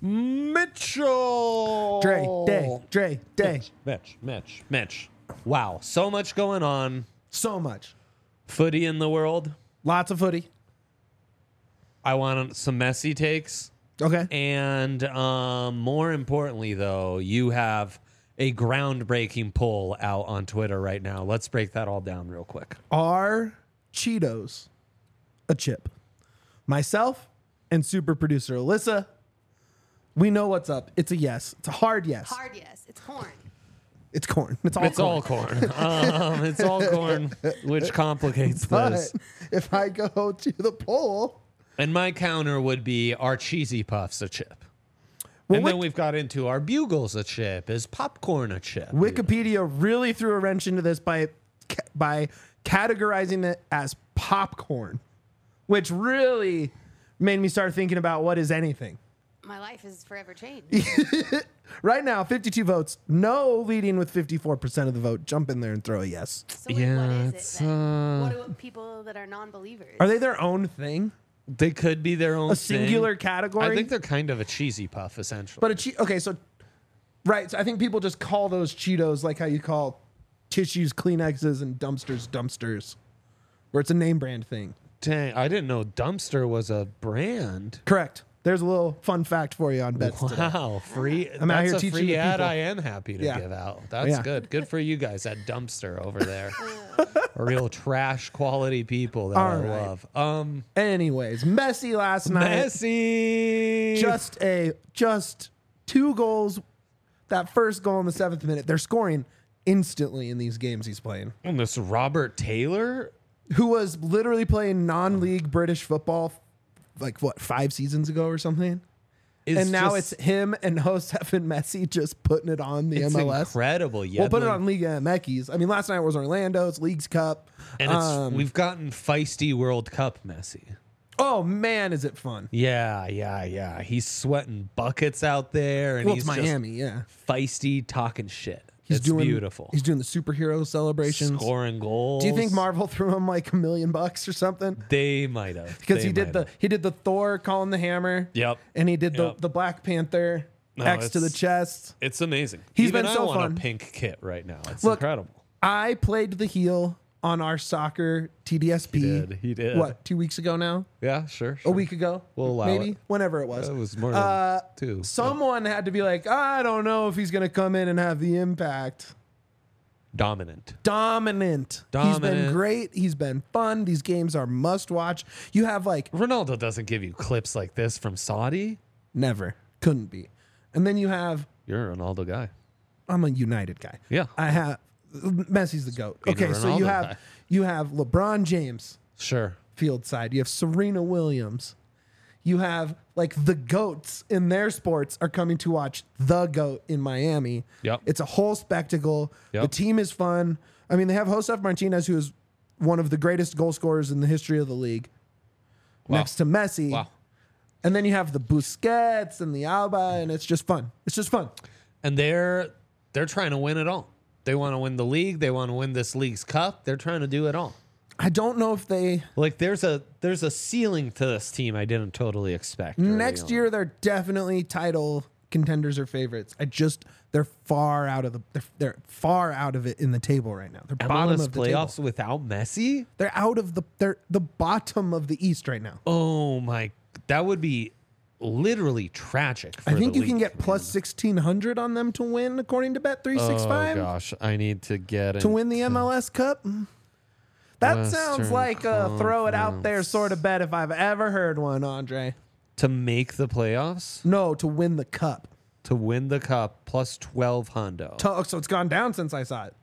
Mitchell. Dre. Mitch. Wow. So much going on. So much. Footy in the world. Lots of footy. I want some Messi takes. Okay. And more importantly, though, you have a groundbreaking poll out on Twitter right now. Let's break that all down real quick. Are Cheetos a chip? Myself and super producer Alyssa, we know what's up. It's a yes. It's a hard yes. Hard yes. It's corn. It's corn. It's All corn. It's all corn, which complicates But this. if I go to the poll, And my counter would be, are Cheesy Puffs a chip? Well, And then we've got into, are Bugles a chip? Is popcorn a chip? Wikipedia really threw a wrench into this by categorizing it as popcorn, which really made me start thinking about what is anything. My life is forever changed. Right now, 52 votes. No leading with 54% of the vote. Jump in there and throw a yes. So wait, Yeah, what is it's, it then? What do people that are non-believers? Are they their own thing? They could be their own A singular thing. category? I think they're kind of a Cheesy Puff, essentially. But okay, so I think people just call those Cheetos like how you call tissues Kleenexes and dumpsters, where it's a name brand thing. Dang, I didn't know Dumpster was a brand. Correct. There's a little fun fact for you on bets today. Wow, free. I'm out that's here a teaching free the ad people. I am happy to Yeah. give out. That's Yeah. good. Good for you guys at Dumpster over there. Real trash quality people that All I right. love. Anyways, Messi last night. Messi. Just 2 goals. That first goal in the 7th minute. They're scoring instantly in these games he's playing. And this Robert Taylor. Who was literally playing non-league British football, like 5 seasons ago or something. And now it's him and Josef and Messi just putting it on the it's MLS. incredible. We'll put it Yedlin- on Liga MX. I mean, last night was Orlando's Leagues Cup. And we've gotten feisty World Cup Messi. Oh man, is it fun? Yeah. He's sweating buckets out there, and Well, he's it's Miami, yeah. just feisty, talking shit. He's It's beautiful. He's doing the superhero celebrations. Scoring goals. Do you think Marvel threw him like $1 million or something? They might have Because he did the Thor calling the hammer. Yep. And he did Yep. the Black Panther No, X to the it's- chest. It's amazing. He's Even been so I want fun. a pink kit right now. It's Look, incredible. I played the heel on our soccer TDSP. He did. What, 2 weeks ago now? Yeah, sure. A week ago? We'll allow maybe? it. Whenever it was. It was more than 2. Someone had to be like, I don't know if he's going to come in and have the impact. Dominant. Dominant. He's been Dominant. great. He's been fun. These games are must watch. You have like Ronaldo doesn't give you clips like this from Saudi. never. Couldn't be. And then you have You're a Ronaldo guy. I'm a United guy. Yeah. I have Messi's the GOAT. Being a Okay, so Ronaldo you guy. have LeBron James Sure. field side. You have Serena Williams. You have like the GOATs in their sports are coming to watch the GOAT in Miami. Yep. It's a whole spectacle. Yep. The team is fun. I mean, they have Josef Martinez, who is one of the greatest goal scorers in the history of the league, Wow. next to Messi. Wow. And then you have the Busquets and the Alba, and it's just fun. It's just fun. And they're trying to win it all. They want to win the league. They want to win this league's cup. They're trying to do it all. I don't know if they Like there's a ceiling to this team I didn't totally expect. early next on. year they're definitely title contenders or favorites. They're far out of it in the table right now. They're bottom MLS of the playoffs table. without Messi? They're out of they're the bottom of the East right now. Oh my, that would be literally tragic. For I think the you can league, get plus 1,600 on them to win, according to Bet365, Oh gosh, I need to get to win the MLS Cup. That Western sounds like a throw it out there sort of bet if I've ever heard one, Andre. to make the playoffs, No, to win the cup. to win the cup plus 12 hundo. So it's gone down since I saw it.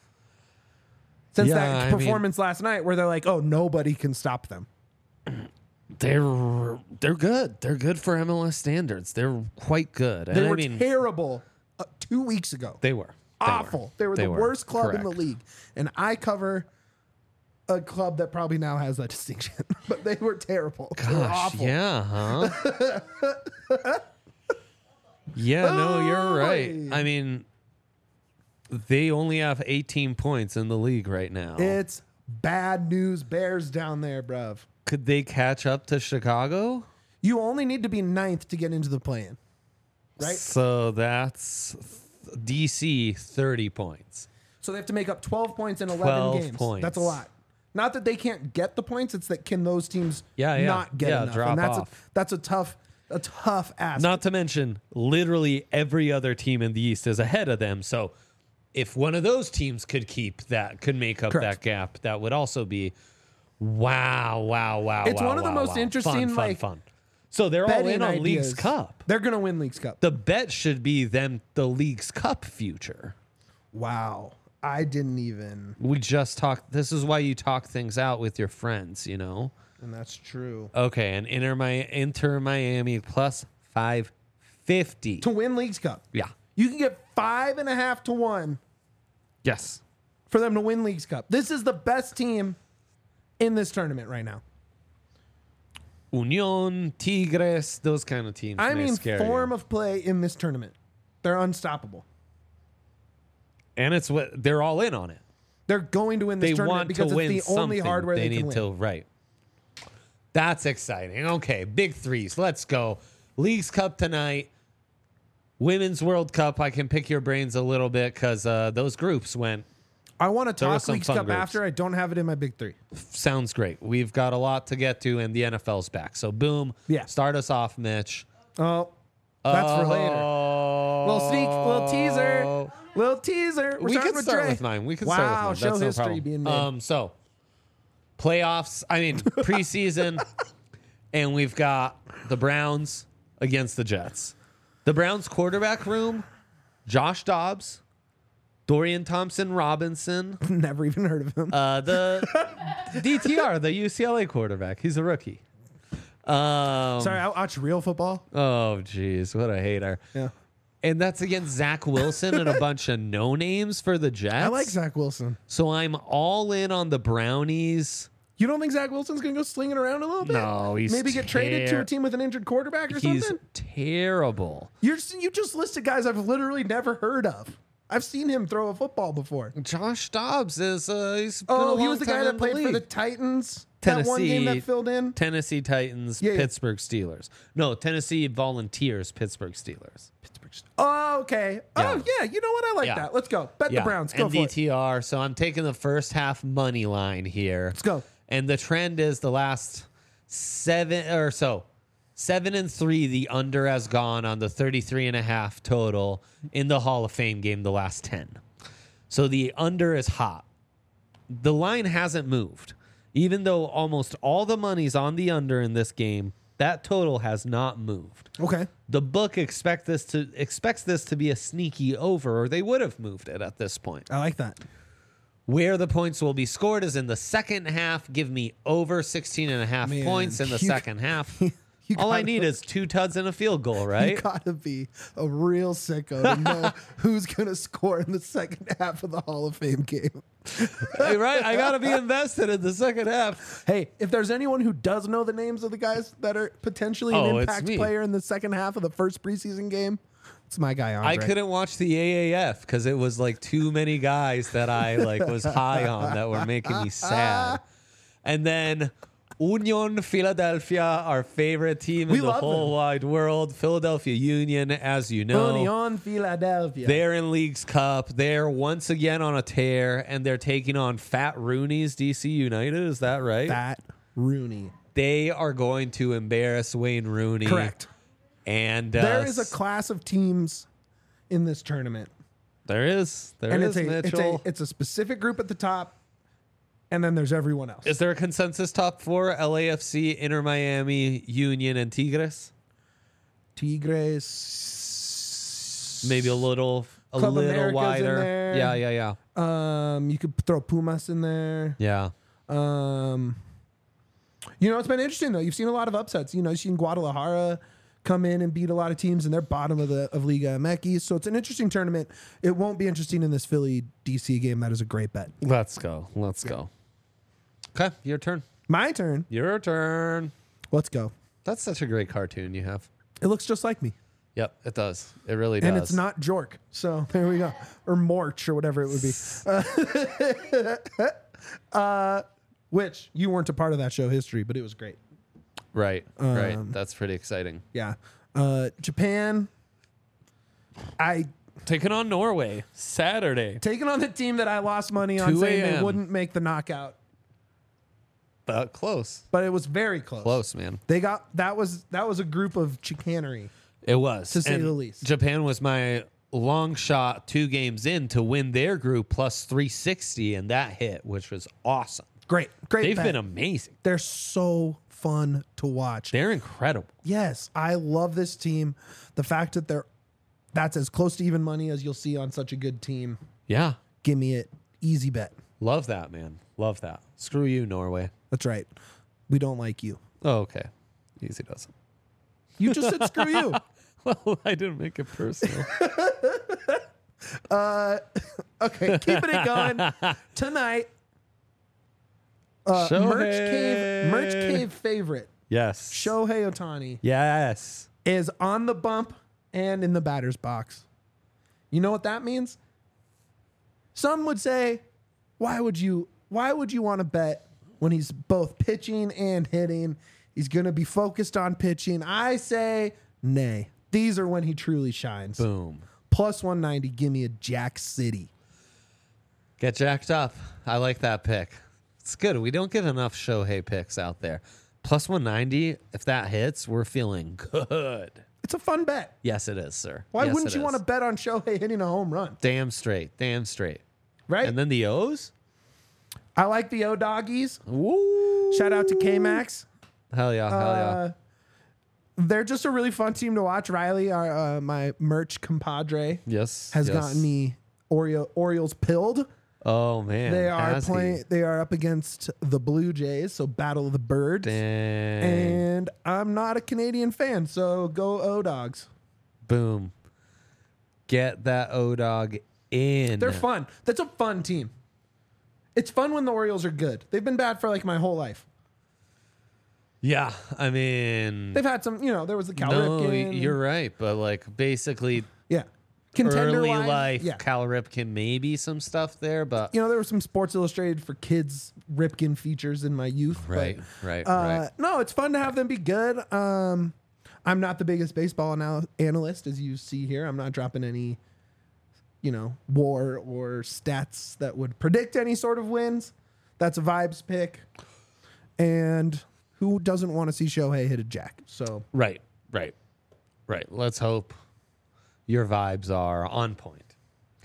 Since Yeah, that I mean- performance last night where they're like, oh, nobody can stop them. They're good. They're good for MLS standards. They're quite good. They And were I mean, terrible 2 weeks ago. they were Awful. They were the worst club in the Correct. league. And I cover a club that probably now has that distinction. But they were terrible. They were Gosh, awful. yeah, huh? Yeah, no, you're right. Oy. I mean, they only have 18 points in the league right now. It's bad news bears down there, bruv. Could they catch up to Chicago? You only need to be ninth to get into the play-in. right? So that's DC 30 points. So they have to make up 12 points in 11 12 games. points. That's a lot. Not that they can't get the points, it's that can those teams not get enough. drop and off. That's a tough ask. Not to mention, literally every other team in the East is ahead of them. So if one of those teams could make up Correct. that gap, that would also be wow. It's one of the most interesting, fun. So they're all in on ideas. League's Cup. They're going to win League's Cup. The bet should be the League's Cup future. Wow. I didn't even. We just talked. This is why you talk things out with your friends, you know? And that's true. Okay, and Inter Miami plus 550. To win League's Cup. Yeah. You can get 5.5 to 1 Yes. for them to win League's Cup. This is the best team in this tournament right now. Union, Tigres, those kind of teams. I may mean, scare form you. of play in this tournament. They're unstoppable. And it's what they're all in on it. They're going to win this They tournament want because to win it's the only something. hardware they can need win. to right. That's exciting. Okay, big threes. Let's go. League's Cup tonight. Women's World Cup. I can pick your brains a little bit because those groups went. I want to There were talk some League's fun Cup groups. after. I don't have it in my big three. Sounds great. We've got a lot to get to, and the NFL's back. So boom. Yeah. Start us off, Mitch. Oh, that's for later. Oh. Little sneak, little teaser, little teaser. We're We starting can with start Dre. with mine. We can Wow, start with mine. show That's no history problem. being made. So playoffs. I mean preseason, and we've got the Browns against the Jets. The Browns quarterback room: Josh Dobbs, Dorian Thompson-Robinson, Never even heard of him. the DTR, the UCLA quarterback. He's a rookie. Sorry, I watch real football. Oh, geez, what a hater. Yeah, And that's against Zach Wilson and a bunch of no names for the Jets. I like Zach Wilson. So I'm all in on the Brownies. You don't think Zach Wilson's gonna go slinging around a little bit? No, he's maybe get traded to a team with an injured quarterback or He's something. terrible. You just listed guys I've literally never heard of. I've seen him throw a football before. Josh Dobbs is he's been a Oh, he long was the time guy in that played for the league. Titans. That one game that filled in. Tennessee Titans, Yeah, yeah. Pittsburgh Steelers. No, Tennessee Volunteers, Pittsburgh Steelers. Oh, okay. Oh, yeah. You know what? I like Yeah. that. Let's go. Bet the Browns. Go for it. NDTR. So I'm taking the first half money line here. Let's go. And the trend is the last 7 or so. 7-3, the under has gone on the 33.5 total in the Hall of Fame game, the last 10. So the under is hot. The line hasn't moved. Even though almost all the money's on the under in this game, that total has not moved. Okay. The book expects this to be a sneaky over, or they would have moved it at this point. I like that. Where the points will be scored is in the second half. Give me over 16.5 Man, points in the you- second half. you All I gotta- need is 2 tuds and a field goal, You right? gotta be a real sicko to know who's gonna score in the second half of the Hall of Fame game. Right? I got to be invested in the second half. Hey, if there's anyone who does know the names of the guys that are potentially an Oh, it's impact me. player in the second half of the first preseason game, it's my guy Andre. I couldn't watch the AAF because it was like too many guys that I was high on that were making me sad. And then Union Philadelphia, our favorite team We in the love whole them. wide world. Philadelphia Union, as you know. Union Philadelphia. They're in League's Cup. They're once again on a tear, and they're taking on Fat Rooney's DC United. Is that right? Fat Rooney. They are going to embarrass Wayne Rooney. Correct. And There is a class of teams in this tournament. there is Mitchell. it's a specific group at the top, and then there's everyone else. Is there a consensus top 4? LAFC, Inter Miami, Union, and Tigres? Tigres. Maybe a little Club America's in wider. there. Yeah. You could throw Pumas in there. Yeah. It's been interesting though. You've seen a lot of upsets. You've seen Guadalajara come in and beat a lot of teams, and they're bottom of Liga MX. So it's an interesting tournament. It won't be interesting in this Philly DC game. That is a great bet. Let's go. Okay, your turn. My turn. Your turn. Let's go. That's such a great cartoon you have. It looks just like me, Yep, it does. It really does. and it's not Jork. So there we go, or Morch, or whatever it would be. Which you weren't a part of that show history, but it was great. Right. That's pretty exciting. Yeah. Japan Taking on Norway Saturday. Taking on the team that I lost money on 2 saying they a.m.. wouldn't make the knockout, But close. but it was very close. Close, man. They got that was a group of chicanery. It was. To say And the least. Japan was my long shot 2 games in to win their group plus 360, and that hit, which was awesome. Great They've bet. been amazing. They're so fun to watch. They're incredible. Yes, I love this team. The fact that that's as close to even money as you'll see on such a good team. Yeah. Give me it. Easy bet. Love that, man. Love that. Screw you, Norway. That's right. We don't like you. Oh, okay. Easy doesn't. You just said screw you. Well, I didn't make it personal. Okay, keeping it going. Tonight, Merch Cave favorite, Yes. Shohei Ohtani, Yes. is on the bump and in the batter's box. You know what that means? Some would say, why would you want to bet when he's both pitching and hitting? He's going to be focused on pitching. I say, nay. These are when he truly shines. Boom. Plus 190, give me a Jack City. Get jacked up. I like that pick. It's good. We don't get enough Shohei picks out there. Plus 190, if that hits, we're feeling good. It's a fun bet. Yes, it is, sir. Why Yes, wouldn't it you is. want to bet on Shohei hitting a home run? Damn straight. Damn straight. Right? And then the O's? I like the O-Doggies. Woo. Shout out to K-Max. Hell yeah. Hell yeah. They're just a really fun team to watch. Riley, my merch compadre, Yes. has yes. gotten me Orioles pilled. Oh, man. They are has he? playing. They are up against the Blue Jays, so Battle of the Birds. Dang. And I'm not a Canadian fan, so go O-Dogs. Boom. Get that O-Dog in. They're fun. That's a fun team. It's fun when the Orioles are good. They've been bad for like my whole life. Yeah. I mean, They've had some, there was the Cal no, Ripken. you're right. But like basically Yeah. early Contender-wise, life, yeah. Cal Ripken, maybe some stuff there, but There were some Sports Illustrated for kids Ripken features in my youth. right, but, right. No, it's fun to have them be good. I'm not the biggest baseball analyst, as you see here. I'm not dropping any, war or stats that would predict any sort of wins. That's a vibes pick. And who doesn't want to see Shohei hit a jack? So Right. Let's hope your vibes are on point.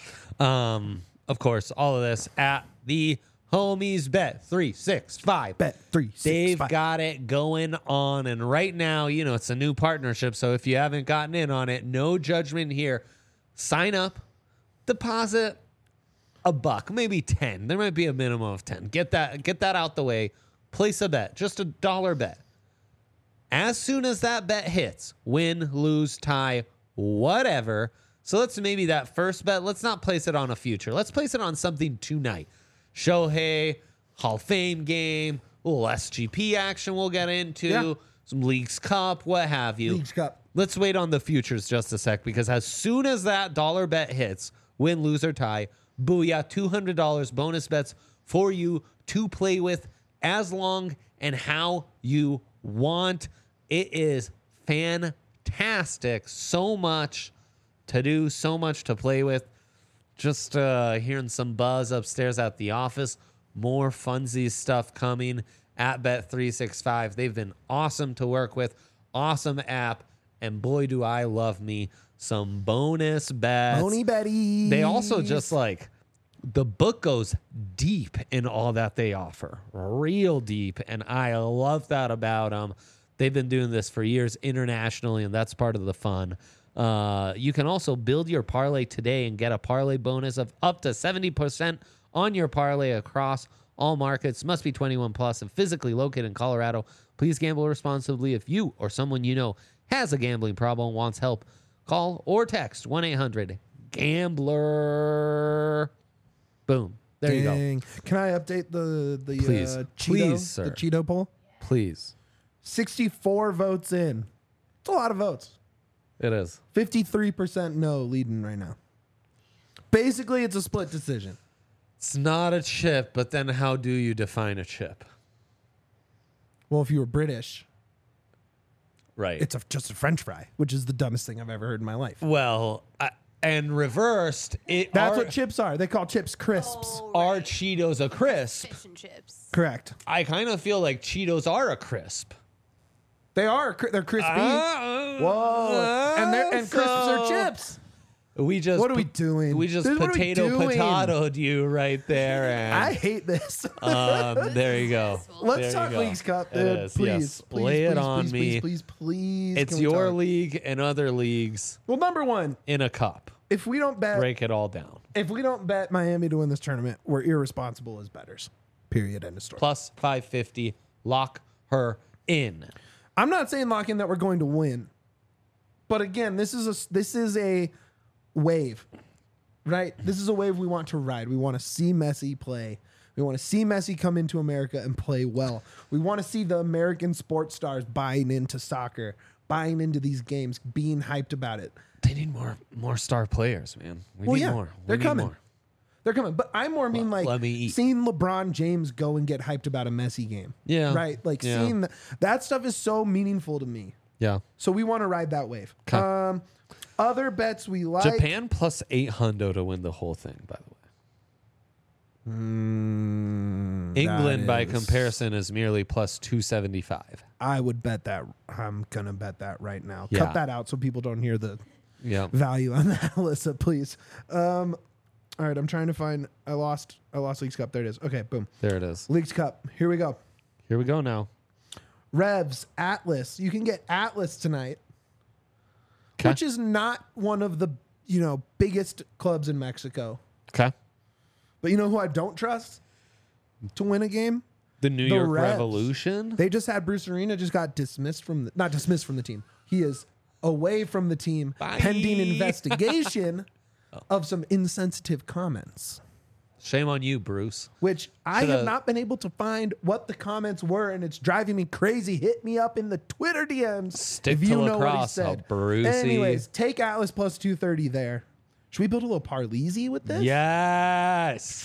Of course, all of this at the Homies Bet 365. bet 365. They've got it going on. And right now, it's a new partnership. So if you haven't gotten in on it, no judgment here. Sign up, deposit $1, maybe 10. There might be a minimum of 10. Get that out the way. Place a bet, just $1 bet. As soon as that bet hits, win, lose, tie, whatever. So let's maybe that first bet, let's not place it on a future. Let's place it on something tonight. Shohei, Hall of Fame game, a little SGP action we'll get into, Yeah. some Leagues Cup, what have you. Leagues Cup. Let's wait on the futures just a sec, because as soon as that dollar bet hits, win, lose, or tie, booyah, $200 bonus bets for you to play with as long and how you want. It is fantastic. So much to do, so much to play with. Just hearing some buzz upstairs at the office. More funsies stuff coming at Bet365. They've been awesome to work with. Awesome app. And boy, do I love me some bonus bets. Boney Betty. They also just the book goes deep in all that they offer, real deep. And I love that about them. They've been doing this for years internationally, and that's part of the fun. You can also build your parlay today and get a parlay bonus of up to 70% on your parlay across all markets. Must be 21 plus and physically located in Colorado. Please gamble responsibly. If you or someone you know has a gambling problem and wants help, call or text 1-800-GAMBLER. Boom. There you go. Can I update the Please. Cheeto, Please, sir. the Cheeto poll? Please. 64 votes in. It's a lot of votes. It is. 53% no leading right now. Basically, it's a split decision. It's not a chip, but then how do you define a chip? Well, if you were British, Right. It's just a French fry, which is the dumbest thing I've ever heard in my life. Well, and reversed, That's what chips are. They call chips crisps. Oh, are right. Cheetos a crisp? Fish and chips. Correct. I kind of feel like Cheetos are a crisp. They are. They're crispy. Whoa. And crisps are chips. What are we doing? We just What are we doing? potatoed you right there, and I hate this. there you go. Let's There talk you go. Leagues Cup, It dude. is, Please, yes. please, Lay it please, on please, me. please. It's Can we your talk? league and other leagues Well, number one, in a cup. if we don't bet, Break it all down. Miami to win this tournament, we're irresponsible as bettors. Period. End of story. Plus 550. Lock her in. I'm not saying lock in that we're going to win, but again, this is a wave, right? This is a wave we want to ride. We want to see Messi play. We want to see Messi come into America and play well. We want to see the American sports stars buying into soccer, buying into these games, being hyped about it. They need more star players, man. We need more. They're We need coming. more. They're coming. But I more mean like let me eat. seeing LeBron James go and get hyped about a Messi game. Yeah. Right? Like Yeah. seeing that stuff is so meaningful to me. Yeah. So we want to ride that wave. 'Kay. Other bets we like. Japan plus 800 to win the whole thing, by the way. England, by comparison, is merely plus 275. I would bet that. I'm going to bet that right now. Yeah. Cut that out so people don't hear the Yeah. value on that, Alyssa, please. All right, I'm trying to find. I lost Leagues Cup. There it is. Okay, boom. There it is. Leagues Cup. Here we go. Here we go now. Revs, Atlas. You can get Atlas tonight, 'Kay. which is not one of the biggest clubs in Mexico. Okay. But you know who I don't trust to win a game? The New The York Revs. Revolution. They just had Bruce Arena just got not dismissed from the team. He is away from the team pending investigation of some insensitive comments, Shame on you, Bruce. which I Shoulda- have not been able to find what the comments were, and it's driving me crazy. Hit me up in the Twitter DMs Stick if to you know what he lacrosse, said. Brucey. Anyways, take Atlas plus 230 there. Should we build a little Parleezy with this? Yes.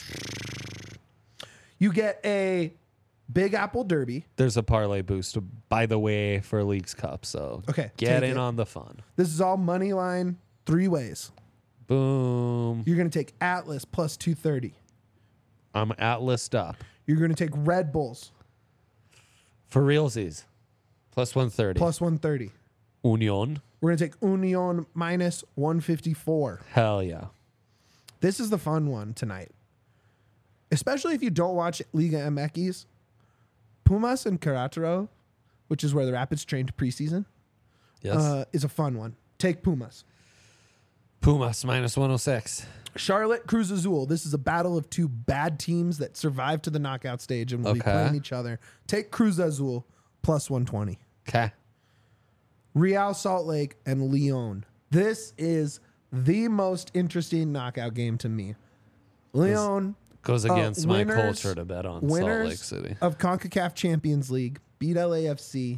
You get a Big Apple Derby. There's a parlay boost, by the way, for Leagues Cup. So Okay, get take in it. on the fun. This is all money line 3 ways. Boom. You're going to take Atlas plus 230. I'm Atlased up. You're going to take Red Bulls For realsies. Plus 130. plus 130. Union. We're going to take Union minus 154. Hell yeah. This is the fun one tonight. Especially if you don't watch Liga MX. Pumas and Querétaro, which is where the Rapids trained preseason, Yes. is a fun one. Take Pumas. Pumas minus 106. Charlotte, Cruz Azul. This is a battle of two bad teams that survived to the knockout stage and will be Okay. playing each other. Take Cruz Azul plus 120. Okay. Real Salt Lake and Leon. This is the most interesting knockout game to me. Leon Goes against my winners- culture to bet on Salt winners Lake City. of CONCACAF Champions League beat LAFC.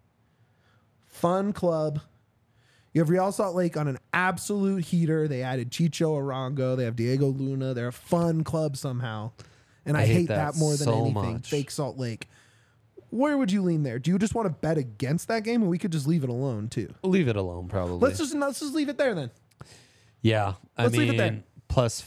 Fun club. You have Real Salt Lake on an absolute heater. They added Chicho Arango. They have Diego Luna. They're a fun club somehow. And I hate that more than so anything. much. Fake Salt Lake. Where would you lean there? Do you just want to bet against that game, or we could just leave it alone too? Leave it alone, probably. Let's just leave it there then. Yeah. Let's leave it there. Plus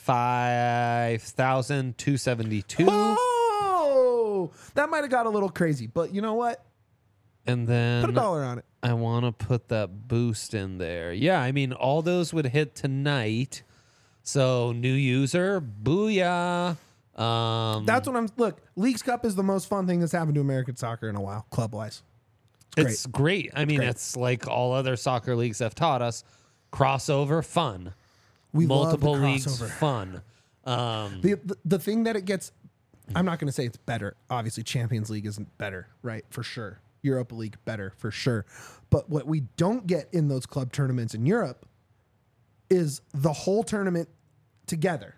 5,272. Oh, that might have got a little crazy, but you know what? And Put a then dollar on it. I want to put that boost in there. Yeah, I mean, all those would hit tonight. So, new user, booyah. That's what I'm. Look, Leagues Cup is the most fun thing that's happened to American soccer in a while, club wise. It's great. I mean, great. it's like all other soccer leagues have taught us. Crossover, fun. We Multiple love the leagues, crossover. fun. The thing that it gets, I'm not going to say it's better. Obviously, Champions League isn't better, right? For sure. Europa League better for sure. But what we don't get in those club tournaments in Europe is the whole tournament together.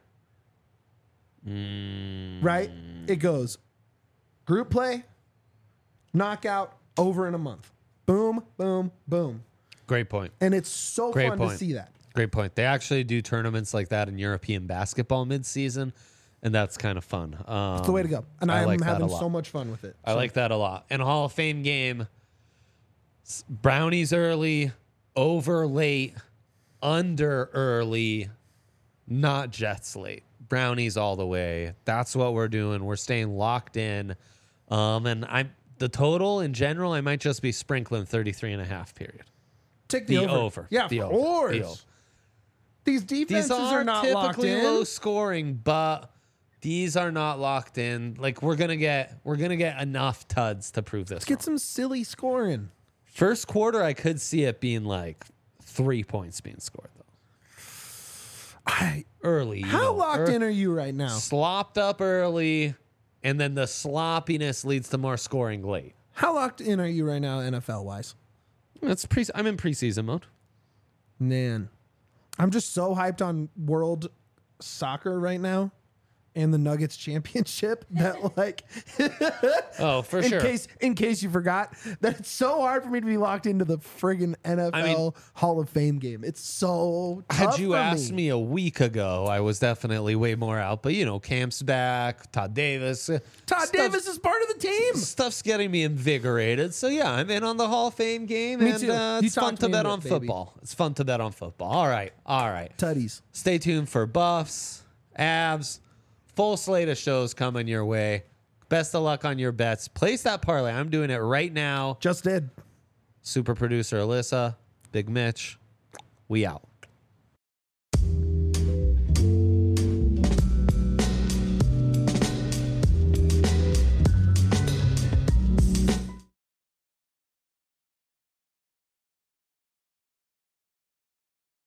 Right? It goes group play, knockout, over in a month. Boom, boom, boom. Great point. And it's so Great fun to point. see that. Great point. They actually do tournaments like that in European basketball mid-season, and that's kind of fun. It's the way to go. And I I'm like that a having lot. so much fun with it. I like that a lot. And Hall of Fame game, Brownies early, over late, under early, not Jets late. Brownies all the way. That's what we're doing. We're staying locked in. And the total in general, I might just be sprinkling 33.5 period. Take the over. Yeah, The of over. course. The over. These defenses These are not locked typically in. low scoring, but these are not locked in. Like we're gonna get enough tuds to prove this. Get some silly scoring. First quarter, I could see it being like 3 points being scored though. Early. How locked in are you right now? Slopped up early, and then the sloppiness leads to more scoring late. How locked in are you right now, NFL wise? I'm in preseason mode. Man, I'm just so hyped on world soccer right now and the Nuggets championship that like Oh, for sure. in case you forgot, that it's so hard for me to be locked into the friggin' NFL Hall of Fame game. It's so tough Had you for asked me a week ago, I was definitely way more out. But, Camp's back, Todd Davis. Davis is part of the team. Stuff's getting me invigorated. So, yeah, I'm in on the Hall of Fame game. Me and too. You it's fun talked to me bet into on it, baby. football. It's fun to bet on football. All right. Tutties. Stay tuned for Buffs, Avs, full slate of shows coming your way. Best of luck on your bets. Place that parlay. I'm doing it right now. Just did. Super producer Alyssa, Big Mitch, we out.